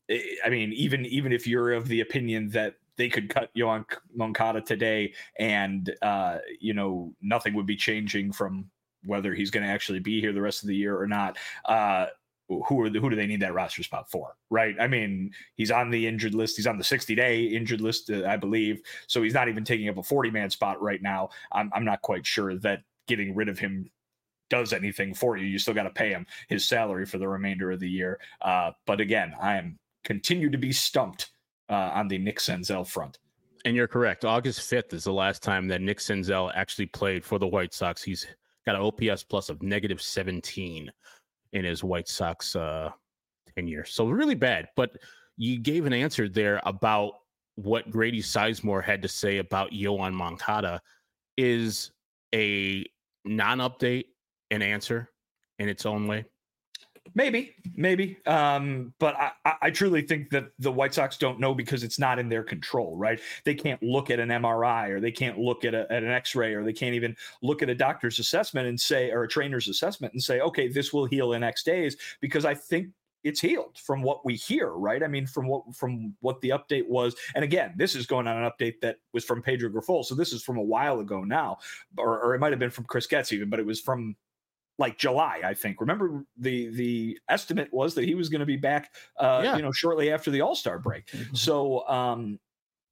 I mean, even, even if you're of the opinion that they could cut Yoan Moncada today and, uh, you know, nothing would be changing from whether he's going to actually be here the rest of the year or not. Uh, who are the, who do they need that roster spot for? Right. I mean, he's on the injured list. He's on the sixty day injured list, uh, I believe. So he's not even taking up a forty man spot right now. I'm, I'm not quite sure that getting rid of him does anything for you. You still got to pay him his salary for the remainder of the year. Uh, but again, I am continue to be stumped uh, on the Nick Senzel front. And you're correct. August fifth is the last time that Nick Senzel actually played for the White Sox. He's got an O P S plus of negative seventeen in his White Sox uh, tenure. So really bad. But you gave an answer there about what Grady Sizemore had to say about Yoan Moncada. Is a non-update an answer in its own way? Maybe, maybe. Um, but I, I truly think that the White Sox don't know because it's not in their control, right? They can't look at an M R I or they can't look at, a, at an X-ray or they can't even look at a doctor's assessment and say, or a trainer's assessment and say, okay, this will heal in X days, because I think it's healed from what we hear, right? I mean, from what from what the update was. And again, this is going on an update that was from Pedro Grifol. So this is from a while ago now, or, or it might have been from Chris Getz even, but it was from like July, I think. Remember, the the estimate was that he was going to be back, uh, yeah. you know, shortly after the All-Star break. Mm-hmm. So um,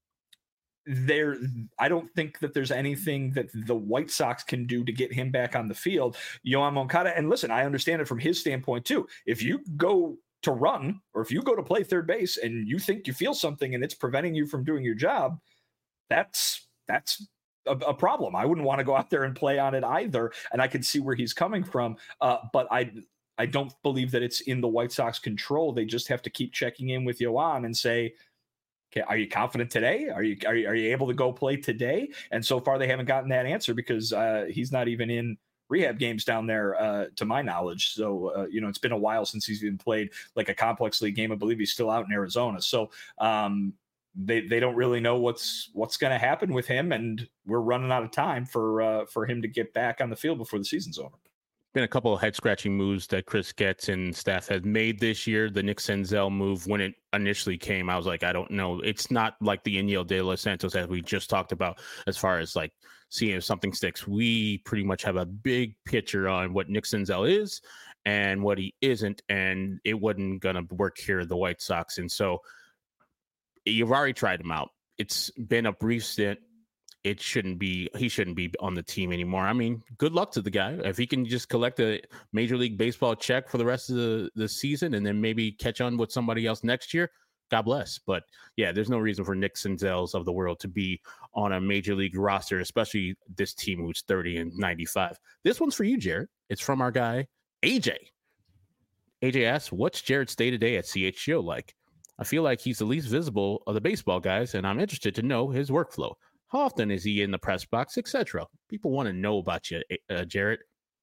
there, I don't think that there's anything that the White Sox can do to get him back on the field. Yoan Moncada, and listen, I understand it from his standpoint too. If you go to run, or if you go to play third base and you think you feel something and it's preventing you from doing your job, that's that's. A, a problem. I wouldn't want to go out there and play on it either. And I can see where he's coming from. Uh, but I, I don't believe that it's in the White Sox control. They just have to keep checking in with Yoan and say, okay, are you confident today? Are you, are you, are you able to go play today? And so far they haven't gotten that answer because uh, he's not even in rehab games down there, uh, to my knowledge. So, uh, you know, it's been a while since he's even played like a complex league game. I believe he's still out in Arizona. So, um, They they don't really know what's what's going to happen with him, and we're running out of time for uh, for him to get back on the field before the season's over. Been a couple of head scratching moves that Chris Getz and staff has made this year. The Nick Senzel move, when it initially came, I was like, I don't know. It's not like the Enyel De Los Santos as we just talked about, as far as like seeing if something sticks. We pretty much have a big picture on what Nick Senzel is and what he isn't, and it wasn't going to work here at the White Sox. And so you've already tried him out. It's been a brief stint. It shouldn't be, he shouldn't be on the team anymore. I mean, good luck to the guy. If he can just collect a Major League Baseball check for the rest of the, the season and then maybe catch on with somebody else next year, God bless. But yeah, there's no reason for Nick Senzels of the world to be on a Major League roster, especially this team who's thirty and ninety-five. This one's for you, Jared. It's from our guy, A J. A J asks, what's Jared's day-to-day at C H G O like? I feel like he's the least visible of the baseball guys, and I'm interested to know his workflow. How often is he in the press box, et cetera? People want to know about you, uh, Jarrett.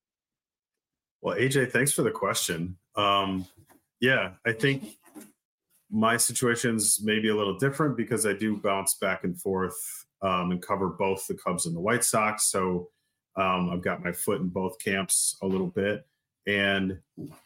Well, A J, thanks for the question. Um, yeah, I think my situation's maybe a little different because I do bounce back and forth um, and cover both the Cubs and the White Sox. So um, I've got my foot in both camps a little bit. And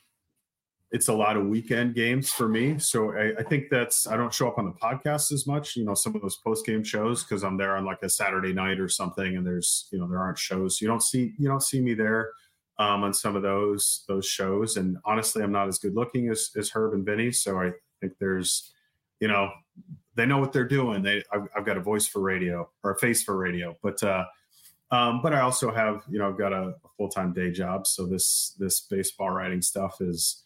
it's a lot of weekend games for me. So I, I think that's, I don't show up on the podcast as much, you know, some of those post-game shows, because I'm there on like a Saturday night or something and there's, you know, there aren't shows. You don't see, you don't see me there um, on some of those, those shows. And honestly, I'm not as good looking as, as Herb and Vinny. So I think there's, you know, they know what they're doing. They, I've, I've got a voice for radio or a face for radio, but, uh, um, but I also have, you know, I've got a, a full-time day job. So this, this baseball writing stuff is,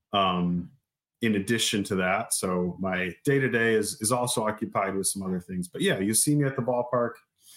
Um, in addition to that, so my day to day is is also occupied with some other things. But yeah, you see me at the ballpark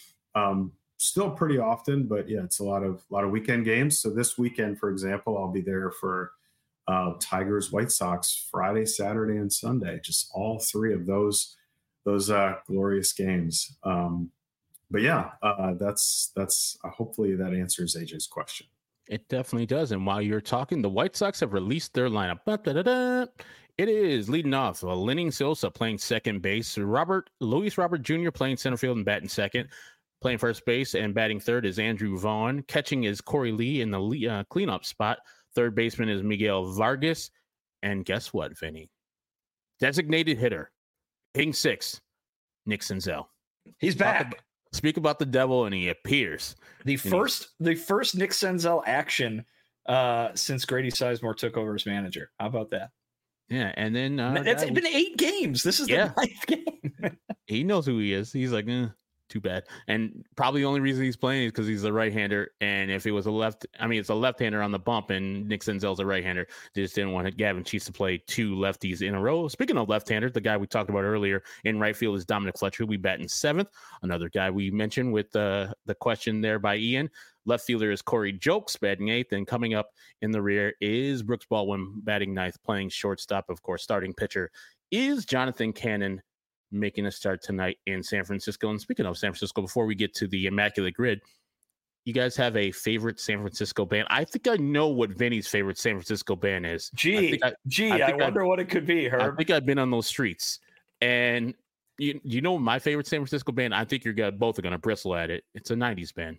um, still pretty often. But yeah, it's a lot of a lot of weekend games. So this weekend, for example, I'll be there for uh, Tigers, White Sox, Friday, Saturday, and Sunday. Just all three of those those uh, glorious games. Um, but yeah, uh, that's that's uh, hopefully that answers A J's question. It definitely does. And while you're talking, the White Sox have released their lineup. Da-da-da-da. It is leading off. Uh, Lenyn Sosa playing second base. Robert Luis Robert Junior playing center field and batting second. Playing first base and batting third is Andrew Vaughn. Catching is Corey Lee in the uh, cleanup spot. Third baseman is Miguel Vargas. And guess what, Vinny? Designated hitter. Hitting six. Nick Senzel. He's back. About, speak about the devil, and he appears. The first, the first Nick Senzel action uh, since Grady Sizemore took over as manager. How about that? Yeah, and then uh, it's that, been eight games. This is yeah. the ninth game. He knows who he is. He's like, eh, too bad. And probably the only reason he's playing is because he's a right-hander. And if it was a left, I mean, it's a left-hander on the bump, and Nick Senzel's a right-hander. They just didn't want Gavin Cheese to play two lefties in a row. Speaking of left-handers, the guy we talked about earlier in right field is Dominic Fletcher, who we bat in seventh. Another guy we mentioned with uh, the question there by Ian. Left fielder is Corey Jokes, batting eighth. And coming up in the rear is Brooks Baldwin, batting ninth, playing shortstop. Of course, starting pitcher is Jonathan Cannon, making a start tonight in San Francisco. And speaking of San Francisco, before we get to the immaculate grid, you guys have a favorite San Francisco band? I think I know what Vinny's favorite San Francisco band is. Gee, I I, gee, I, I wonder I've, what it could be, Herb. I think I've been on those streets. And you, you know my favorite San Francisco band? I think you're gonna, both are going to bristle at it. It's a nineties band.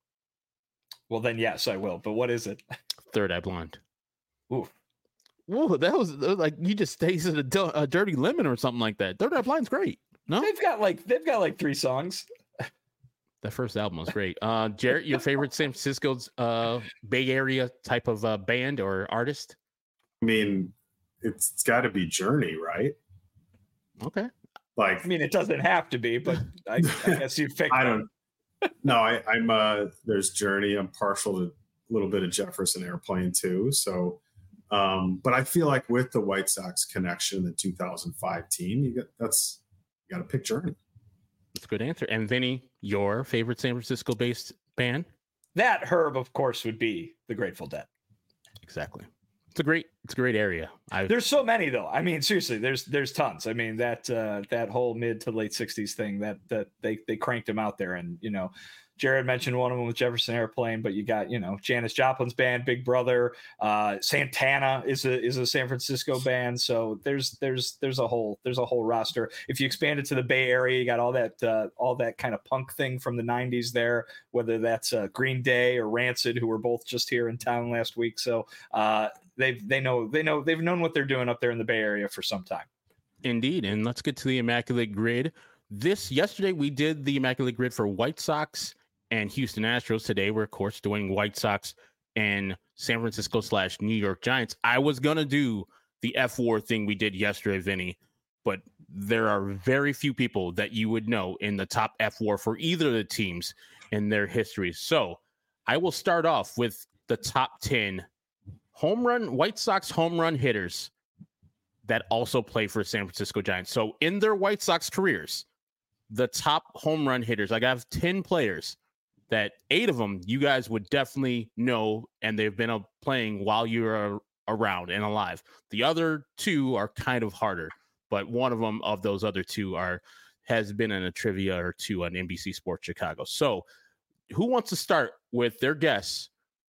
Well, then, yes, I will. But what is it? Third Eye Blonde. Ooh. Whoa, that was like you just tasted a, a dirty lemon or something like that. Third Eye Blonde's great. No? They've got like they've got like three songs. That first album was great. Uh, Jarrett, your favorite San Francisco's uh, Bay Area type of uh, band or artist? I mean, it's, it's got to be Journey, right? Okay. Like, I mean, it doesn't have to be, but I, I guess you picked. I don't. No, I, I'm. Uh, there's Journey. I'm partial to a little bit of Jefferson Airplane too. So, um, but I feel like with the White Sox connection, the two thousand five team, you got that's you got to pick Journey. That's a good answer. And Vinny, your favorite San Francisco-based band? That Herb, of course, would be the Grateful Dead. Exactly. It's a great, it's a great area. I've... There's so many though. I mean, seriously, there's there's tons. I mean, that uh, that whole mid to late sixties thing that that they they cranked them out there, and you know, Jared mentioned one of them with Jefferson Airplane, but you got, you know, Janis Joplin's band, Big Brother, uh, Santana is a is a San Francisco band. So there's there's there's a whole there's a whole roster. If you expand it to the Bay Area, you got all that uh, all that kind of punk thing from the nineties there, whether that's uh, Green Day or Rancid, who were both just here in town last week. So uh, they they know they know they've known what they're doing up there in the Bay Area for some time. Indeed, and let's get to the Immaculate Grid. This yesterday we did the Immaculate Grid for White Sox and Houston Astros. Today we're of course doing White Sox and San Francisco slash New York Giants. I was gonna do the F war thing we did yesterday, Vinny, but there are very few people that you would know in the top F war for either of the teams in their history. So I will start off with the top ten home run White Sox home run hitters that also play for San Francisco Giants. So in their White Sox careers, the top home run hitters, like I have ten players that eight of them you guys would definitely know, and they've been uh, playing while you're uh, around and alive. The other two are kind of harder, but one of them of those other two are has been in a trivia or two on N B C Sports Chicago. So who wants to start with their guess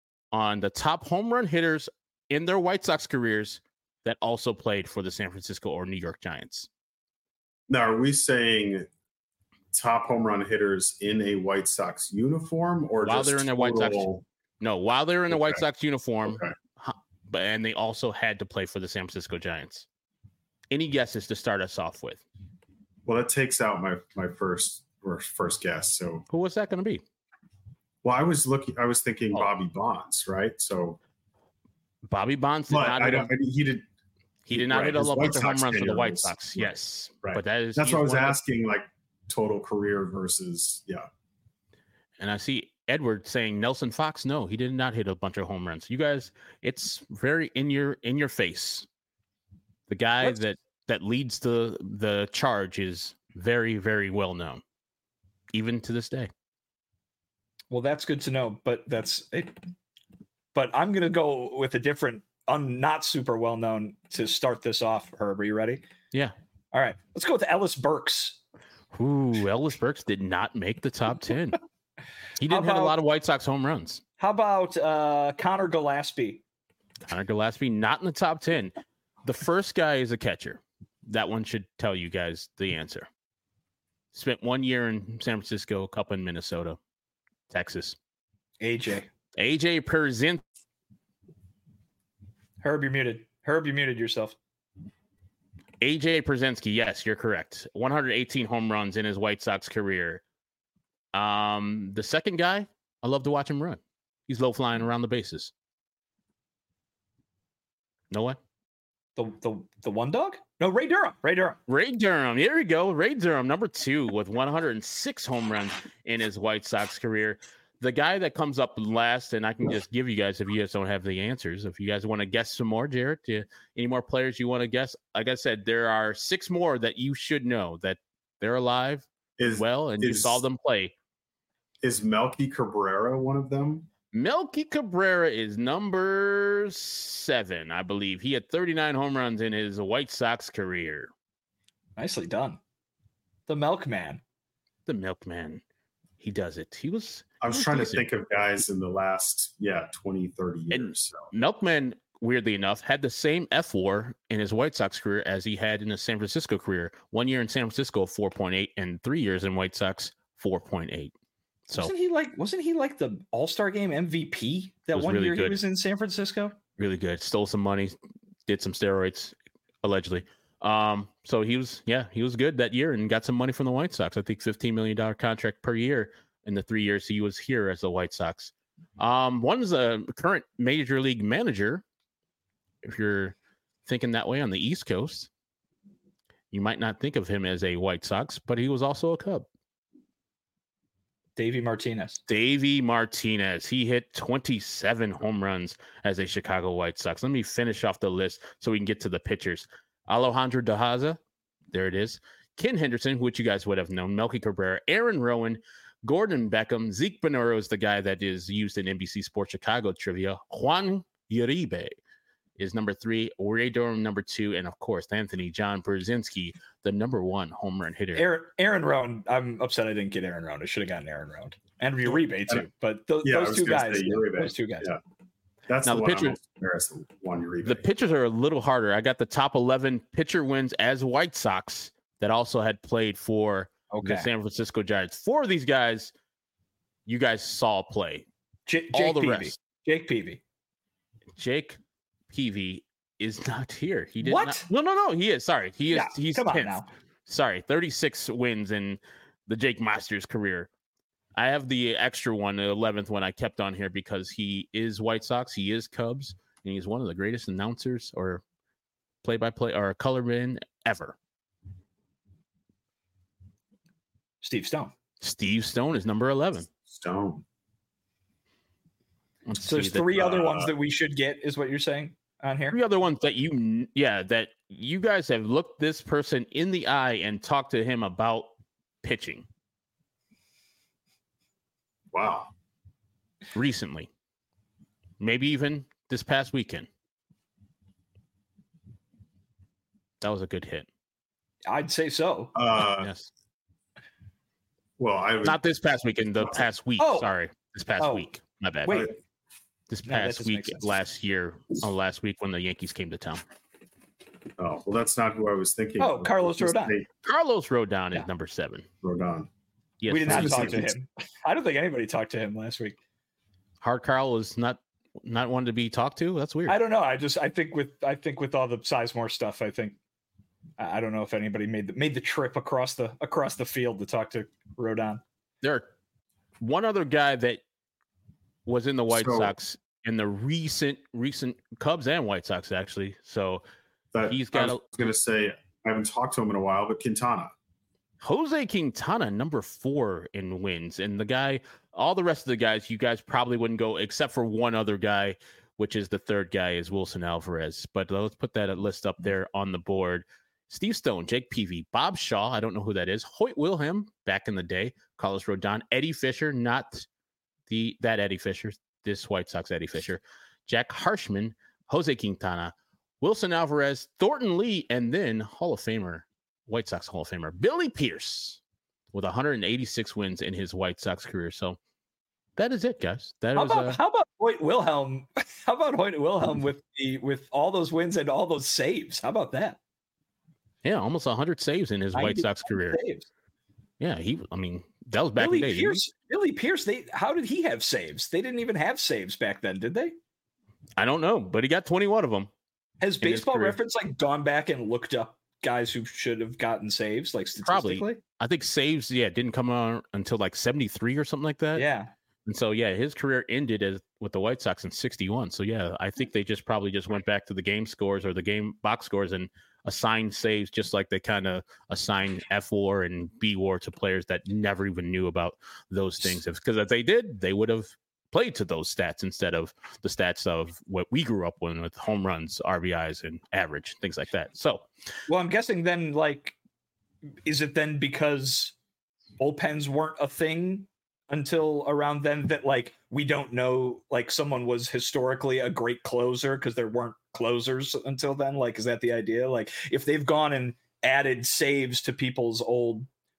on the top home run hitters in their White Sox careers that also played for the San Francisco or New York Giants? Now, are we saying top home run hitters in a White Sox uniform, or while just they're in a total... White Sox? No, while they're in a okay. White Sox uniform, okay. but and they also had to play for the San Francisco Giants. Any guesses to start us off with? Well, that takes out my my first first guess. So who was that going to be? Well, I was looking. I was thinking oh. Bobby Bonds, right? So Bobby Bonds did not. I hit don't, a, he did. He did not right, hit a bunch of home runs for the White was, Sox. Right, yes, right. But that is that's what I was asking. Of, like total career versus yeah. And I see Edward saying Nelson Fox. No, he did not hit a bunch of home runs. You guys, it's very in your in your face. The guy What's... that that leads the the charge is very very well known, even to this day. Well, that's good to know, but that's it. But I'm gonna go with a different, un, not super well known to start this off. Herb, are you ready? Yeah. All right, let's go with Ellis Burks. Ooh, Ellis Burks did not make the top ten. He didn't have a lot of White Sox home runs. How about uh, Connor Gillespie? Connor Gillespie, not in the top ten. The first guy is a catcher. That one should tell you guys the answer. Spent one year in San Francisco, a couple in Minnesota, Texas. A J. A J Pierzynski. Herb, you're muted. Herb, you muted yourself. A J Pierzynski, yes, you're correct. one hundred eighteen home runs in his White Sox career. Um, the second guy, I love to watch him run. He's low flying around the bases. No way? The the the one dog? No, Ray Durham. Ray Durham. Ray Durham. Here we go. Ray Durham, number two, with one hundred six home runs in his White Sox career. The guy that comes up last, and I can just give you guys, if you guys don't have the answers, if you guys want to guess some more, Jared, do you, any more players you want to guess? Like I said, there are six more that you should know that they're alive is, well, and is, you saw them play. Is Melky Cabrera one of them? Melky Cabrera is number seven, I believe. He had thirty-nine home runs in his White Sox career. Nicely done. The Milkman. The Milkman. he does it. He was. I was, he was trying decent. to think of guys in the last, yeah, twenty, thirty years. And so. Milkman, weirdly enough, had the same F WAR in his White Sox career as he had in his San Francisco career. One year in San Francisco, four point eight, and three years in White Sox, four point eight. So wasn't he like wasn't he like the All-Star game M V P that one really year good. he was in San Francisco? Really good. Stole some money, did some steroids, allegedly. Um, so he was, yeah, he was good that year and got some money from the White Sox. I think fifteen million dollars contract per year in the three years he was here as the White Sox. Um, one is a current major league manager. If you're thinking that way on the East Coast, you might not think of him as a White Sox, but he was also a Cub. Davey Martinez. Davey Martinez. He hit twenty-seven home runs as a Chicago White Sox. Let me finish off the list so we can get to the pitchers. Alejandro De Haza. There it is. Ken Henderson, which you guys would have known. Melky Cabrera. Aaron Rowan. Gordon Beckham. Zeke Bonoro is the guy that is used in N B C Sports Chicago trivia. Juan Uribe is number three. Ray Durham, number two. And, of course, Anthony John Brzezinski, the number one home run hitter. Aaron, Aaron Rowan. I'm upset I didn't get Aaron Rowan. I should have gotten Aaron Rowan. And Uribe, too. But th- yeah, those two guys. Those two guys. Yeah. That's now the, the pitcher, one Uribe. The pitchers are a little harder. I got the top eleven pitcher wins as White Sox that also had played for okay. the San Francisco Giants. Four of these guys, you guys saw play. J- All Jake the Peavy. rest. Jake Peavy. Jake Peavy is not here. He did what? Not, no, no, no. He is. Sorry. He is. Yeah, he's come on tenth. now. Sorry. thirty-six wins in the Jake Masters career. I have the extra one, the eleventh one I kept on here because he is White Sox. He is Cubs. And he's one of the greatest announcers or play-by-play or colorman ever. Steve Stone. Steve Stone is number eleven. Stone. Let's so there's that, three uh, other ones that we should get, is what you're saying on here? Three other ones that you, yeah, that you guys have looked this person in the eye and talked to him about pitching. Wow. Recently. Maybe even this past weekend. That was a good hit. I'd say so. Uh, yes. Well, I would, not this past weekend, the past week. Oh. Sorry. This past Oh. week. My bad. Wait. This No, that past doesn't week, make sense. last year, oh, last week when the Yankees came to town. Oh, well, that's not who I was thinking. Oh, of. Carlos Just Rodon. say Carlos Rodon Yeah. is number seven. Rodon. Yes, we did not that's- talk to him. I don't think anybody talked to him last week. Hard Carl is not not one to be talked to. That's weird. I don't know. I just I think with I think with all the Sizemore stuff, I think I I don't know if anybody made the made the trip across the across the field to talk to Rodon. There are one other guy that was in the White So- Sox in the recent recent Cubs and White Sox actually. So That, He's got I was a- going to say, I haven't talked to him in a while, but Quintana. Jose Quintana, number four in wins, and the guy, all the rest of the guys, you guys probably wouldn't go except for one other guy, which is the third guy is Wilson Alvarez. But let's put that list up there on the board. Steve Stone, Jake Peavy, Bob Shaw, I don't know who that is. Hoyt Wilhelm back in the day, Carlos Rodon, Eddie Fisher, not the that Eddie Fisher, this White Sox Eddie Fisher, Jack Harshman, Jose Quintana, Wilson Alvarez, Thornton Lee, and then Hall of Famer, White Sox Hall of Famer, Billy Pierce, with one hundred eighty-six wins in his White Sox career. So that is it, guys. That How was about uh, how about Hoyt Wilhelm? How about Hoyt Wilhelm with the with all those wins and all those saves? How about that? yeah, almost one hundred saves in his White ninety Sox career. Saves. Yeah, he. I mean, that was back Billy in the day. Pierce. Billy Pierce. They how did he have saves? They didn't even have saves back then, did they? I don't know, but he got twenty-one of them. Has In his Baseball career. Reference like gone back and looked up guys who should have gotten saves, like Probably. statistically? I think saves, yeah, didn't come on until like seventy-three or something like that. Yeah. And so, yeah, his career ended as with the White Sox in sixty-one. So, yeah, I think they just probably just went back to the game scores or the game box scores and assigned saves just like they kind of assigned F WAR and B WAR to players that never even knew about those things. Because if they did, they would have played to those stats instead of the stats of what we grew up with, with home runs, R B Is, and average, things like that. So, Well, I'm guessing then, like, is it then because bullpens weren't a thing until around then that, like, we don't know, like, someone was historically a great closer because there weren't closers until then? Like, is that the idea? Like, if they've gone and added saves to people's old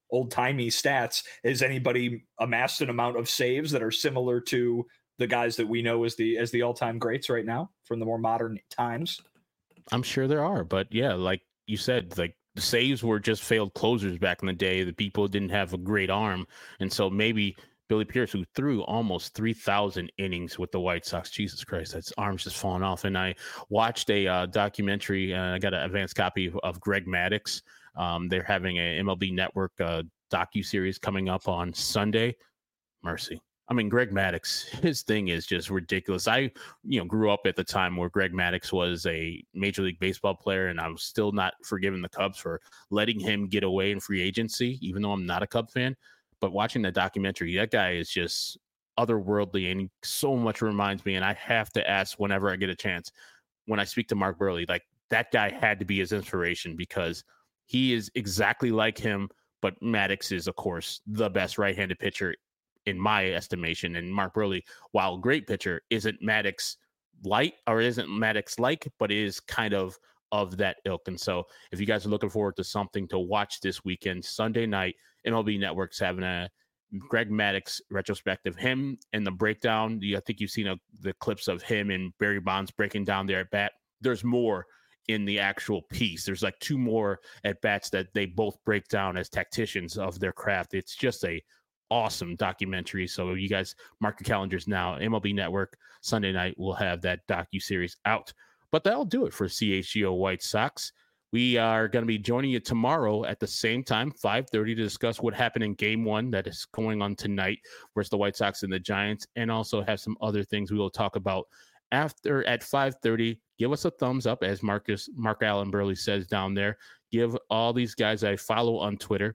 old-timey stats, has anybody amassed an amount of saves that are similar to the guys that we know as the as the all-time greats right now from the more modern times? I'm sure there are, but yeah, like you said, like the saves were just failed closers back in the day. The people didn't have a great arm, and so maybe Billy Pierce, who threw almost three thousand innings with the White Sox, Jesus Christ, that's arm's just falling off. And I watched a uh, documentary, and I got an advanced copy of, of Greg Maddux. Um, they're having a M L B Network uh, docu-series coming up on Sunday. Mercy. I mean, Greg Maddux, his thing is just ridiculous. I, you know, grew up at the time where Greg Maddux was a Major League Baseball player, and I'm still not forgiving the Cubs for letting him get away in free agency, even though I'm not a Cub fan. But watching the documentary, that guy is just otherworldly, and he so much reminds me. And I have to ask whenever I get a chance, when I speak to Mark Buehrle, like that guy had to be his inspiration, because he is exactly like him. But Maddux is, of course, the best right-handed pitcher in my estimation. And Mark Buehrle, while a great pitcher, isn't Maddux light or isn't Maddux like, but is kind of of that ilk. And so if you guys are looking forward to something to watch this weekend, Sunday night, M L B Network's having a Greg Maddux retrospective, him and the breakdown. I think you've seen a, the clips of him and Barry Bonds breaking down their at bat. There's more in the actual piece. There's like two more at bats that they both break down as tacticians of their craft. It's just a awesome documentary. So you guys mark your calendars now. M L B Network Sunday night will have that docu-series out. But that'll do it for C H G O White Sox. We are going to be joining you tomorrow at the same time, five thirty, to discuss what happened in game one that is going on tonight versus the White Sox and the Giants, and also have some other things we will talk about after at five thirty. Give us a thumbs up, as Marcus Mark Allen Buehrle says down there. Give all these guys I follow on Twitter,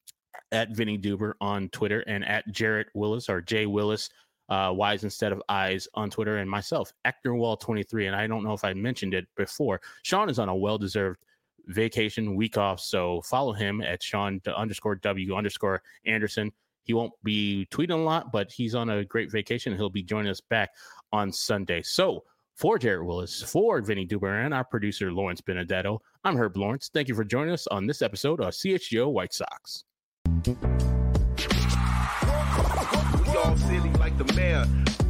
at Vinny Duber on Twitter, and at Jarrett Willis or Jay Willis, uh, Y's instead of I's on Twitter, and myself, Actorwall twenty-three. And I don't know if I mentioned it before, Sean is on a well-deserved vacation week off, so follow him at Sean underscore W underscore Anderson. He won't be tweeting a lot, but he's on a great vacation. He'll be joining us back on Sunday. So for Jarrett Willis, for Vinny Duber, and our producer Lawrence Benedetto, I'm Herb Lawrence. Thank you for joining us on this episode of C H G O White Sox. We all silly like the mayor.